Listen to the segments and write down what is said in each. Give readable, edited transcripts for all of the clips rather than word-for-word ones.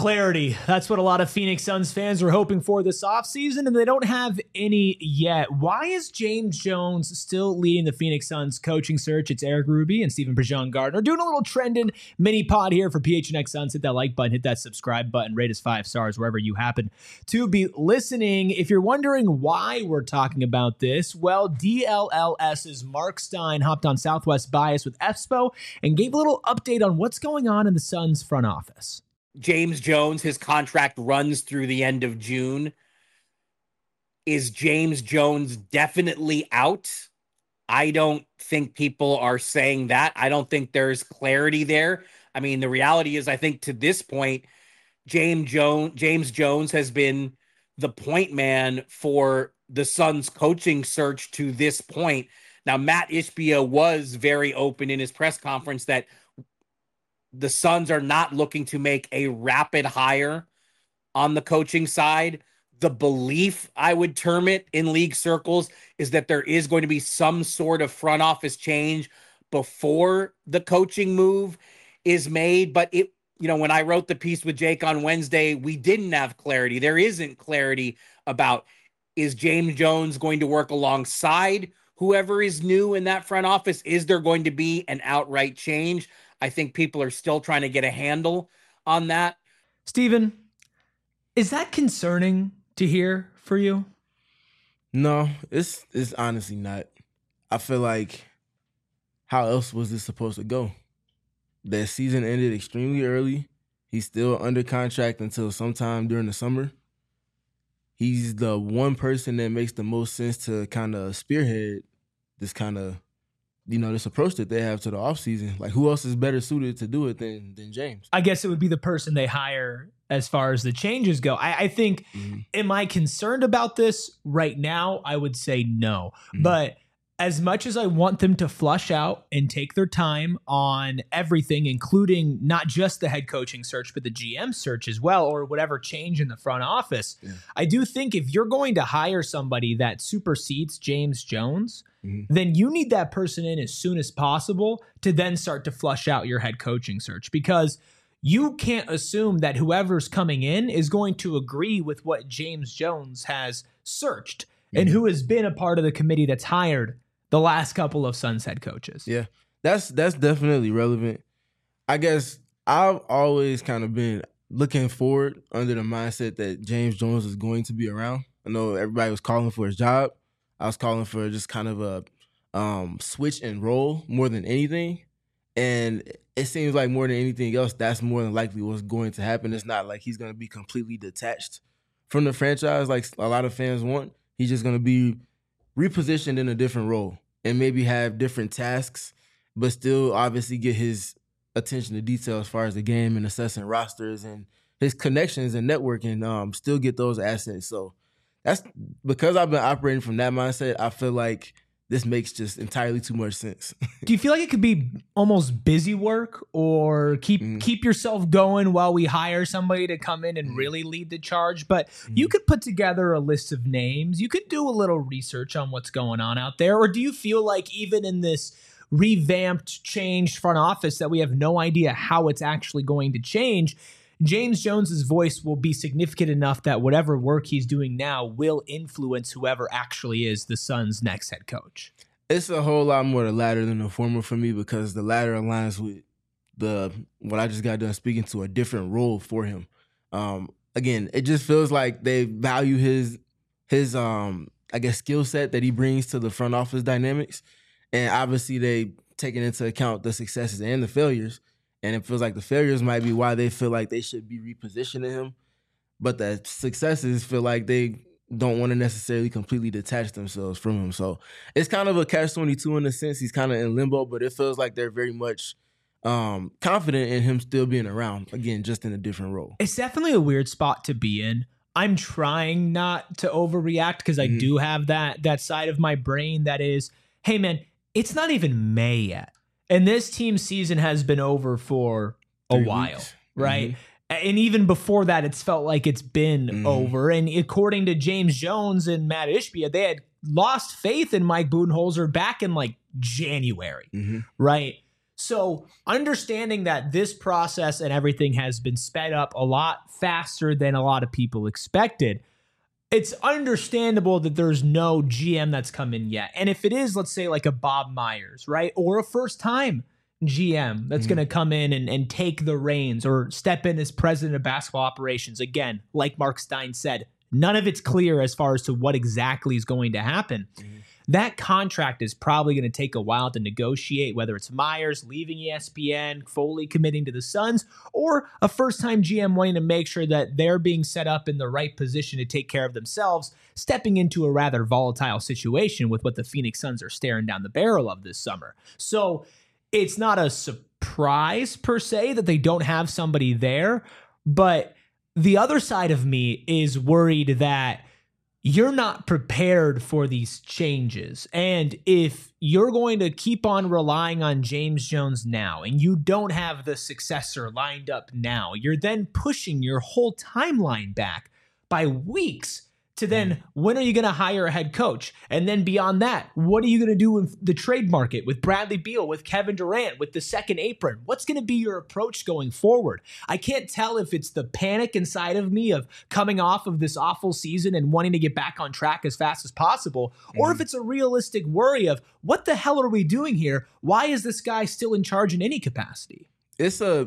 Clarity. That's what a lot of Phoenix Suns fans were hoping for this offseason, and they don't have any yet. Why is James Jones still leading the Phoenix Suns coaching search? It's Eric Ruby and Stephen Prejean Gardner doing a little trending mini pod here for PHNX Suns. Hit that like button, hit that subscribe button, rate us 5 stars wherever you happen to be listening. If you're wondering why we're talking about this, well, DLLS's Mark Stein hopped on Southwest Bias with EFSPO and gave a little update on what's going on in the Suns front office. James Jones, his contract runs through the end of June. Is James Jones definitely out? I don't think people are saying that. I don't think there's clarity there. I mean, the reality is, I think to this point, James Jones has been the point man for the Suns coaching search to this point. Now, Matt Ishbia was very open in his press conference that the Suns are not looking to make a rapid hire on the coaching side. The belief, I would term it in league circles, is that there is going to be some sort of front office change before the coaching move is made. But when I wrote the piece with Jake on Wednesday, we didn't have clarity. There isn't clarity about, is James Jones going to work alongside whoever is new in that front office? Is there going to be an outright change? I think people are still trying to get a handle on that. Steven, is that concerning to hear for you? No, it's honestly not. I feel like, how else was this supposed to go? That season ended extremely early. He's still under contract until sometime during the summer. He's the one person that makes the most sense to kind of spearhead this kind of, this approach that they have to the offseason. Like, who else is better suited to do it than James? I guess it would be the person they hire as far as the changes go. I think, am I concerned about this right now? I would say no. But as much as I want them to flush out and take their time on everything, including not just the head coaching search, but the GM search as well, or whatever change in the front office, I do think if you're going to hire somebody that supersedes James Jones, then you need that person in as soon as possible to then start to flush out your head coaching search, because you can't assume that whoever's coming in is going to agree with what James Jones has searched and who has been a part of the committee that's hired the last couple of Suns head coaches. Yeah, that's definitely relevant. I guess I've always kind of been looking forward under the mindset that James Jones is going to be around. I know everybody was calling for his job. I was calling for just kind of a switch and roll more than anything. And it seems like more than anything else, that's more than likely what's going to happen. It's not like he's going to be completely detached from the franchise like a lot of fans want. He's just going to be repositioned in a different role and maybe have different tasks, but still obviously get his attention to detail as far as the game and assessing rosters and his connections and networking, still get those assets. So that's because I've been operating from that mindset. I feel like this makes just entirely too much sense. Do you feel like it could be almost busy work, or keep yourself going while we hire somebody to come in and really lead the charge? But you could put together a list of names. You could do a little research on what's going on out there. Or do you feel like even in this revamped, changed front office that we have no idea how it's actually going to change, James Jones's voice will be significant enough that whatever work he's doing now will influence whoever actually is the Suns' next head coach? It's a whole lot more the latter than the former for me, because the latter aligns with what I just got done speaking to, a different role for him. Again, it just feels like they value his I guess skill set that he brings to the front office dynamics, and obviously they taking into account the successes and the failures. And it feels like the failures might be why they feel like they should be repositioning him. But the successes feel like they don't want to necessarily completely detach themselves from him. So it's kind of a catch-22 in a sense. He's kind of in limbo, but it feels like they're very much confident in him still being around, again, just in a different role. It's definitely a weird spot to be in. I'm trying not to overreact because I do have that side of my brain that is, hey, man, it's not even May yet. And this team's season has been over for a while, right? And even before that, it's felt like it's been over. And according to James Jones and Matt Ishbia, they had lost faith in Mike Budenholzer back in like January, right? So understanding that this process and everything has been sped up a lot faster than a lot of people expected, it's understandable that there's no GM that's come in yet. And if it is, let's say like a Bob Myers, right? Or a first-time GM that's going to come in and take the reins or step in as president of basketball operations. Again, like Mark Stein said, none of it's clear as far as to what exactly is going to happen. That contract is probably going to take a while to negotiate, whether it's Myers leaving ESPN, fully committing to the Suns, or a first-time GM wanting to make sure that they're being set up in the right position to take care of themselves, stepping into a rather volatile situation with what the Phoenix Suns are staring down the barrel of this summer. So it's not a surprise per se that they don't have somebody there, but the other side of me is worried that you're not prepared for these changes. And if you're going to keep on relying on James Jones now and you don't have the successor lined up now, you're then pushing your whole timeline back by weeks to then when are you going to hire a head coach? And then beyond that, what are you going to do with the trade market, with Bradley Beal, with Kevin Durant, with the second apron? What's going to be your approach going forward? I can't tell if it's the panic inside of me of coming off of this awful season and wanting to get back on track as fast as possible, or if it's a realistic worry of what the hell are we doing here? Why is this guy still in charge in any capacity? It's a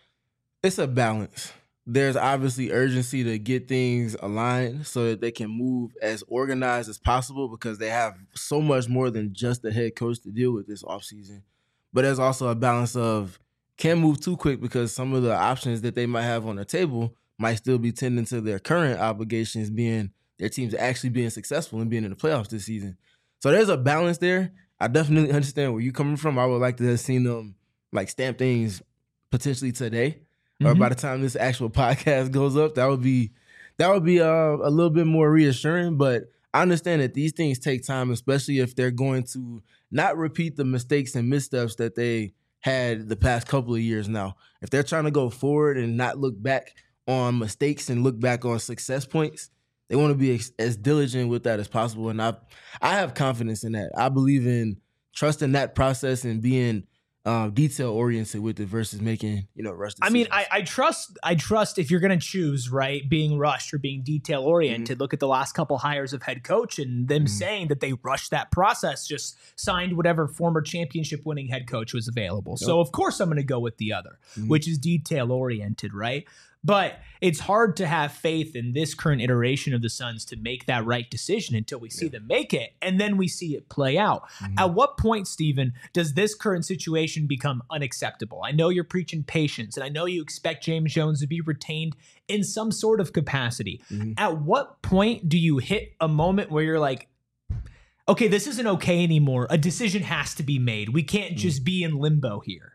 balance. There's obviously urgency to get things aligned so that they can move as organized as possible because they have so much more than just the head coach to deal with this offseason. But there's also a balance of can't move too quick because some of the options that they might have on the table might still be tending to their current obligations, being their teams actually being successful and being in the playoffs this season. So there's a balance there. I definitely understand where you're coming from. I would like to have seen them like stamp things potentially today. Or by the time this actual podcast goes up, that would be a little bit more reassuring. But I understand that these things take time, especially if they're going to not repeat the mistakes and missteps that they had the past couple of years now. If they're trying to go forward and not look back on mistakes and look back on success points, they want to be as diligent with that as possible. And I have confidence in that. I believe in trusting that process and being detail oriented with it versus making rushed decisions. I mean, I trust if you're going to choose, right, being rushed or being detail oriented. Look at the last couple hires of head coach and them saying that they rushed that process, just signed whatever former championship winning head coach was available. So of course I'm going to go with the other, which is detail oriented, right? But it's hard to have faith in this current iteration of the Suns to make that right decision until we see them make it, and then we see it play out. At what point, Steven, does this current situation become unacceptable? I know you're preaching patience, and I know you expect James Jones to be retained in some sort of capacity. At what point do you hit a moment where you're like, okay, this isn't okay anymore. A decision has to be made. We can't just be in limbo here.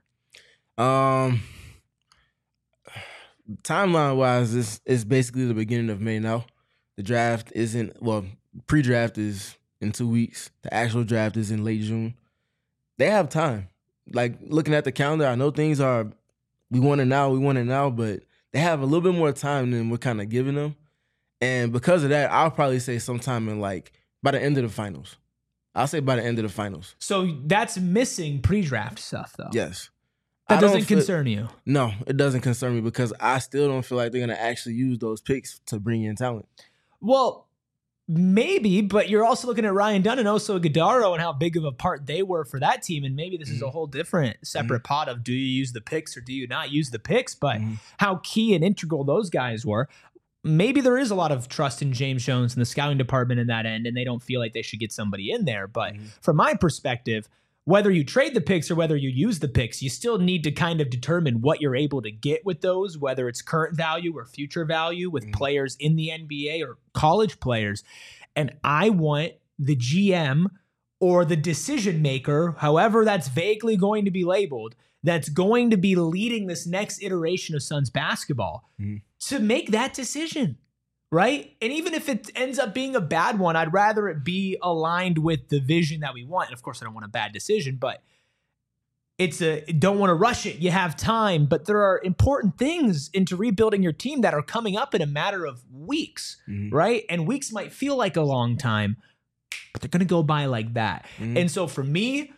Timeline wise, it's basically the beginning of May now. The draft pre-draft is in 2 weeks. The actual draft is in late June. They have time. Like looking at the calendar, I know things are, we want it now, but they have a little bit more time than we're kind of giving them. And because of that, I'll probably say sometime in by the end of the finals. I'll say by the end of the finals. So that's missing pre-draft stuff though. Yes. That doesn't concern you? No, it doesn't concern me because I still don't feel like they're going to actually use those picks to bring in talent. Well, maybe, but you're also looking at Ryan Dunn and Oso Ighodaro and how big of a part they were for that team. And maybe this is a whole different separate pot of do you use the picks or do you not use the picks, but how key and integral those guys were. Maybe there is a lot of trust in James Jones and the scouting department in that end, and they don't feel like they should get somebody in there. But from my perspective, whether you trade the picks or whether you use the picks, you still need to kind of determine what you're able to get with those, whether it's current value or future value with players in the NBA or college players. And I want the GM or the decision maker, however that's vaguely going to be labeled, that's going to be leading this next iteration of Suns basketball to make that decision. Right? And even if it ends up being a bad one, I'd rather it be aligned with the vision that we want. And of course, I don't want a bad decision, but don't want to rush it. You have time, but there are important things into rebuilding your team that are coming up in a matter of weeks, right? And weeks might feel like a long time, but they're going to go by like that. And so for me,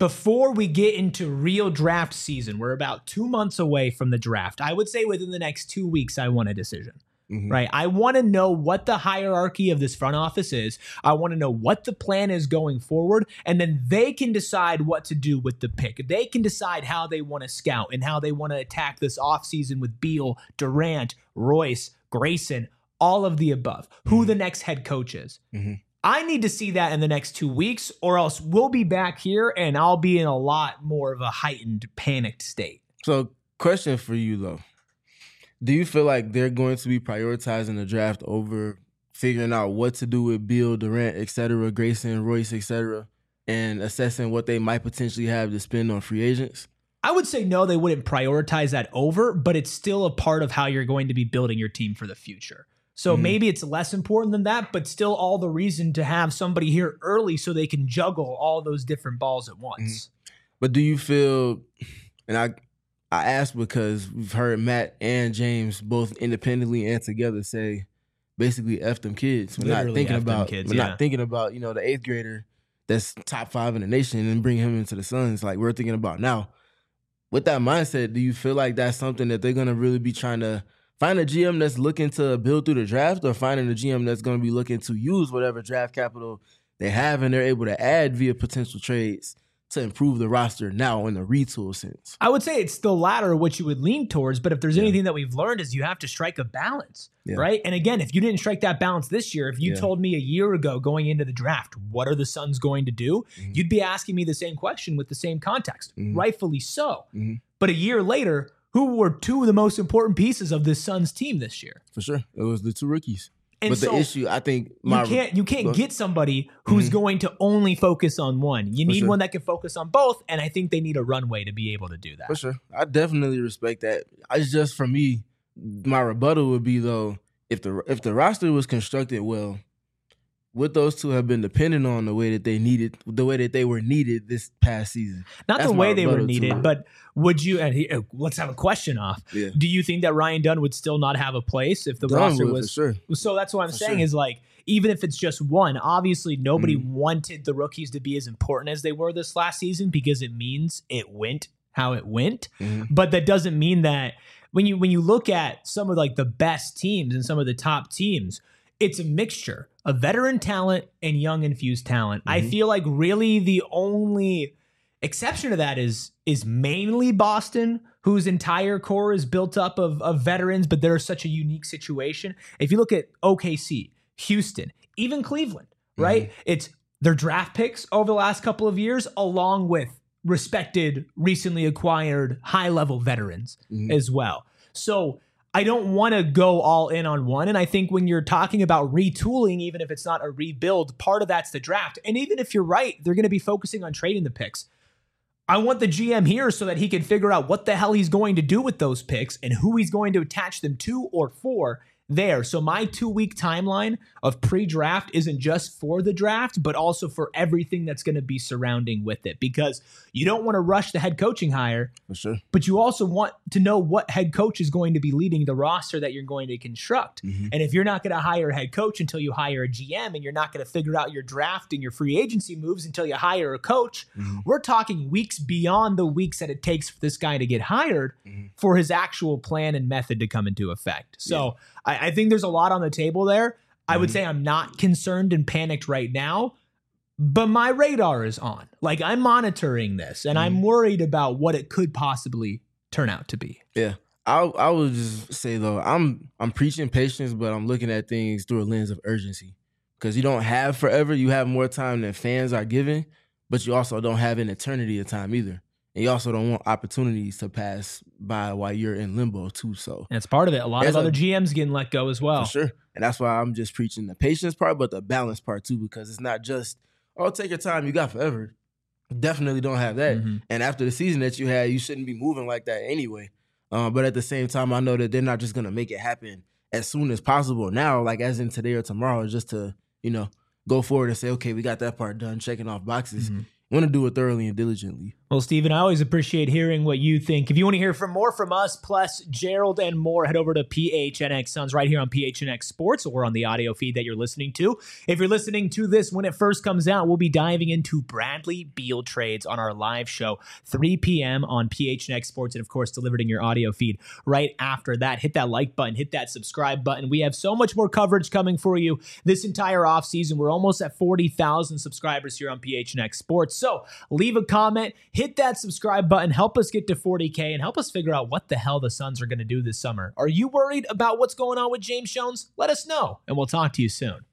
before we get into real draft season, we're about 2 months away from the draft. I would say within the next 2 weeks, I want a decision. Right. I want to know what the hierarchy of this front office is. I want to know what the plan is going forward. And then they can decide what to do with the pick. They can decide how they want to scout and how they want to attack this offseason with Beal, Durant, Royce, Grayson, all of the above, who the next head coach is. I need to see that in the next 2 weeks, or else we'll be back here and I'll be in a lot more of a heightened, panicked state. So, question for you, though. Do you feel like they're going to be prioritizing the draft over figuring out what to do with Beal, Durant, et cetera, Grayson, Royce, et cetera, and assessing what they might potentially have to spend on free agents? I would say no, they wouldn't prioritize that over, but it's still a part of how you're going to be building your team for the future. So maybe it's less important than that, but still all the reason to have somebody here early so they can juggle all those different balls at once. But do you feel, and I asked because we've heard Matt and James both independently and together say basically F them kids. We're not thinking about not thinking about, the 8th grader that's top 5 in the nation and bring him into the Suns like we're thinking about now. With that mindset, do you feel like that's something that they're going to really be trying to find a GM that's looking to build through the draft, or finding a GM that's going to be looking to use whatever draft capital they have and they're able to add via potential trades to improve the roster now in the retool sense? I would say it's the latter, which you would lean towards, but if there's anything that we've learned is you have to strike a balance, right? And again, if you didn't strike that balance this year, if you told me a year ago going into the draft, what are the Suns going to do? You'd be asking me the same question with the same context, rightfully so. But a year later, who were 2 of the most important pieces of this Suns team this year? For sure. It was the 2 rookies. And but so the issue, I think, you can't get somebody who's going to only focus on one. You need one that can focus on both, and I think they need a runway to be able to do that. For sure. I definitely respect that. It's just, for me, my rebuttal would be, though, if the roster was constructed well, would those 2 have been dependent on the way that they were needed this past season? Not the way they were needed, but would you? And let's have a question off. Yeah. Do you think that Ryan Dunn would still not have a place if the roster was? For sure. So that's what I'm saying is like, even if it's just one, obviously nobody wanted the rookies to be as important as they were this last season because it means it went how it went. But that doesn't mean that when you look at some of like the best teams and some of the top teams, it's a mixture of veteran talent and young infused talent. I feel like really the only exception to that is mainly Boston, whose entire core is built up of veterans, but they're such a unique situation. If you look at OKC, Houston, even Cleveland, right? It's their draft picks over the last couple of years, along with respected, recently acquired high-level veterans as well. So I don't want to go all in on one. And I think when you're talking about retooling, even if it's not a rebuild, part of that's the draft. And even if you're right, they're going to be focusing on trading the picks. I want the GM here so that he can figure out what the hell he's going to do with those picks and who he's going to attach them to or for there. So my 2-week timeline of pre-draft isn't just for the draft, but also for everything that's going to be surrounding with it, because you don't want to rush the head coaching hire, for sure, but you also want to know what head coach is going to be leading the roster that you're going to construct. And if you're not going to hire a head coach until you hire a GM, and you're not going to figure out your draft and your free agency moves until you hire a coach, we're talking weeks beyond the weeks that it takes for this guy to get hired for his actual plan and method to come into effect. So I think there's a lot on the table there. I would say I'm not concerned and panicked right now, but my radar is on. Like, I'm monitoring this, and I'm worried about what it could possibly turn out to be. Yeah. I would just say, though, I'm preaching patience, but I'm looking at things through a lens of urgency, because you don't have forever. You have more time than fans are given, but you also don't have an eternity of time either. And you also don't want opportunities to pass by while you're in limbo too. So that's part of it. A lot of other GMs getting let go as well. For sure. And that's why I'm just preaching the patience part, but the balance part too, because it's not just, oh, take your time, you got forever. Definitely don't have that. And after the season that you had, you shouldn't be moving like that anyway. But at the same time, I know that they're not just going to make it happen as soon as possible now, like as in today or tomorrow, just to, go forward and say, okay, we got that part done, checking off boxes. Want to do it thoroughly and diligently. Well, Steven, I always appreciate hearing what you think. If you want to hear more from us, plus Gerald and more, head over to PHNX Suns right here on PHNX Sports or on the audio feed that you're listening to. If you're listening to this when it first comes out, we'll be diving into Bradley Beal trades on our live show, 3 p.m. on PHNX Sports, and of course, delivered in your audio feed right after that. Hit that like button, hit that subscribe button. We have so much more coverage coming for you this entire offseason. We're almost at 40,000 subscribers here on PHNX Sports. So leave a comment, hit that subscribe button, help us get to 40K, and help us figure out what the hell the Suns are going to do this summer. Are you worried about what's going on with James Jones? Let us know, and we'll talk to you soon.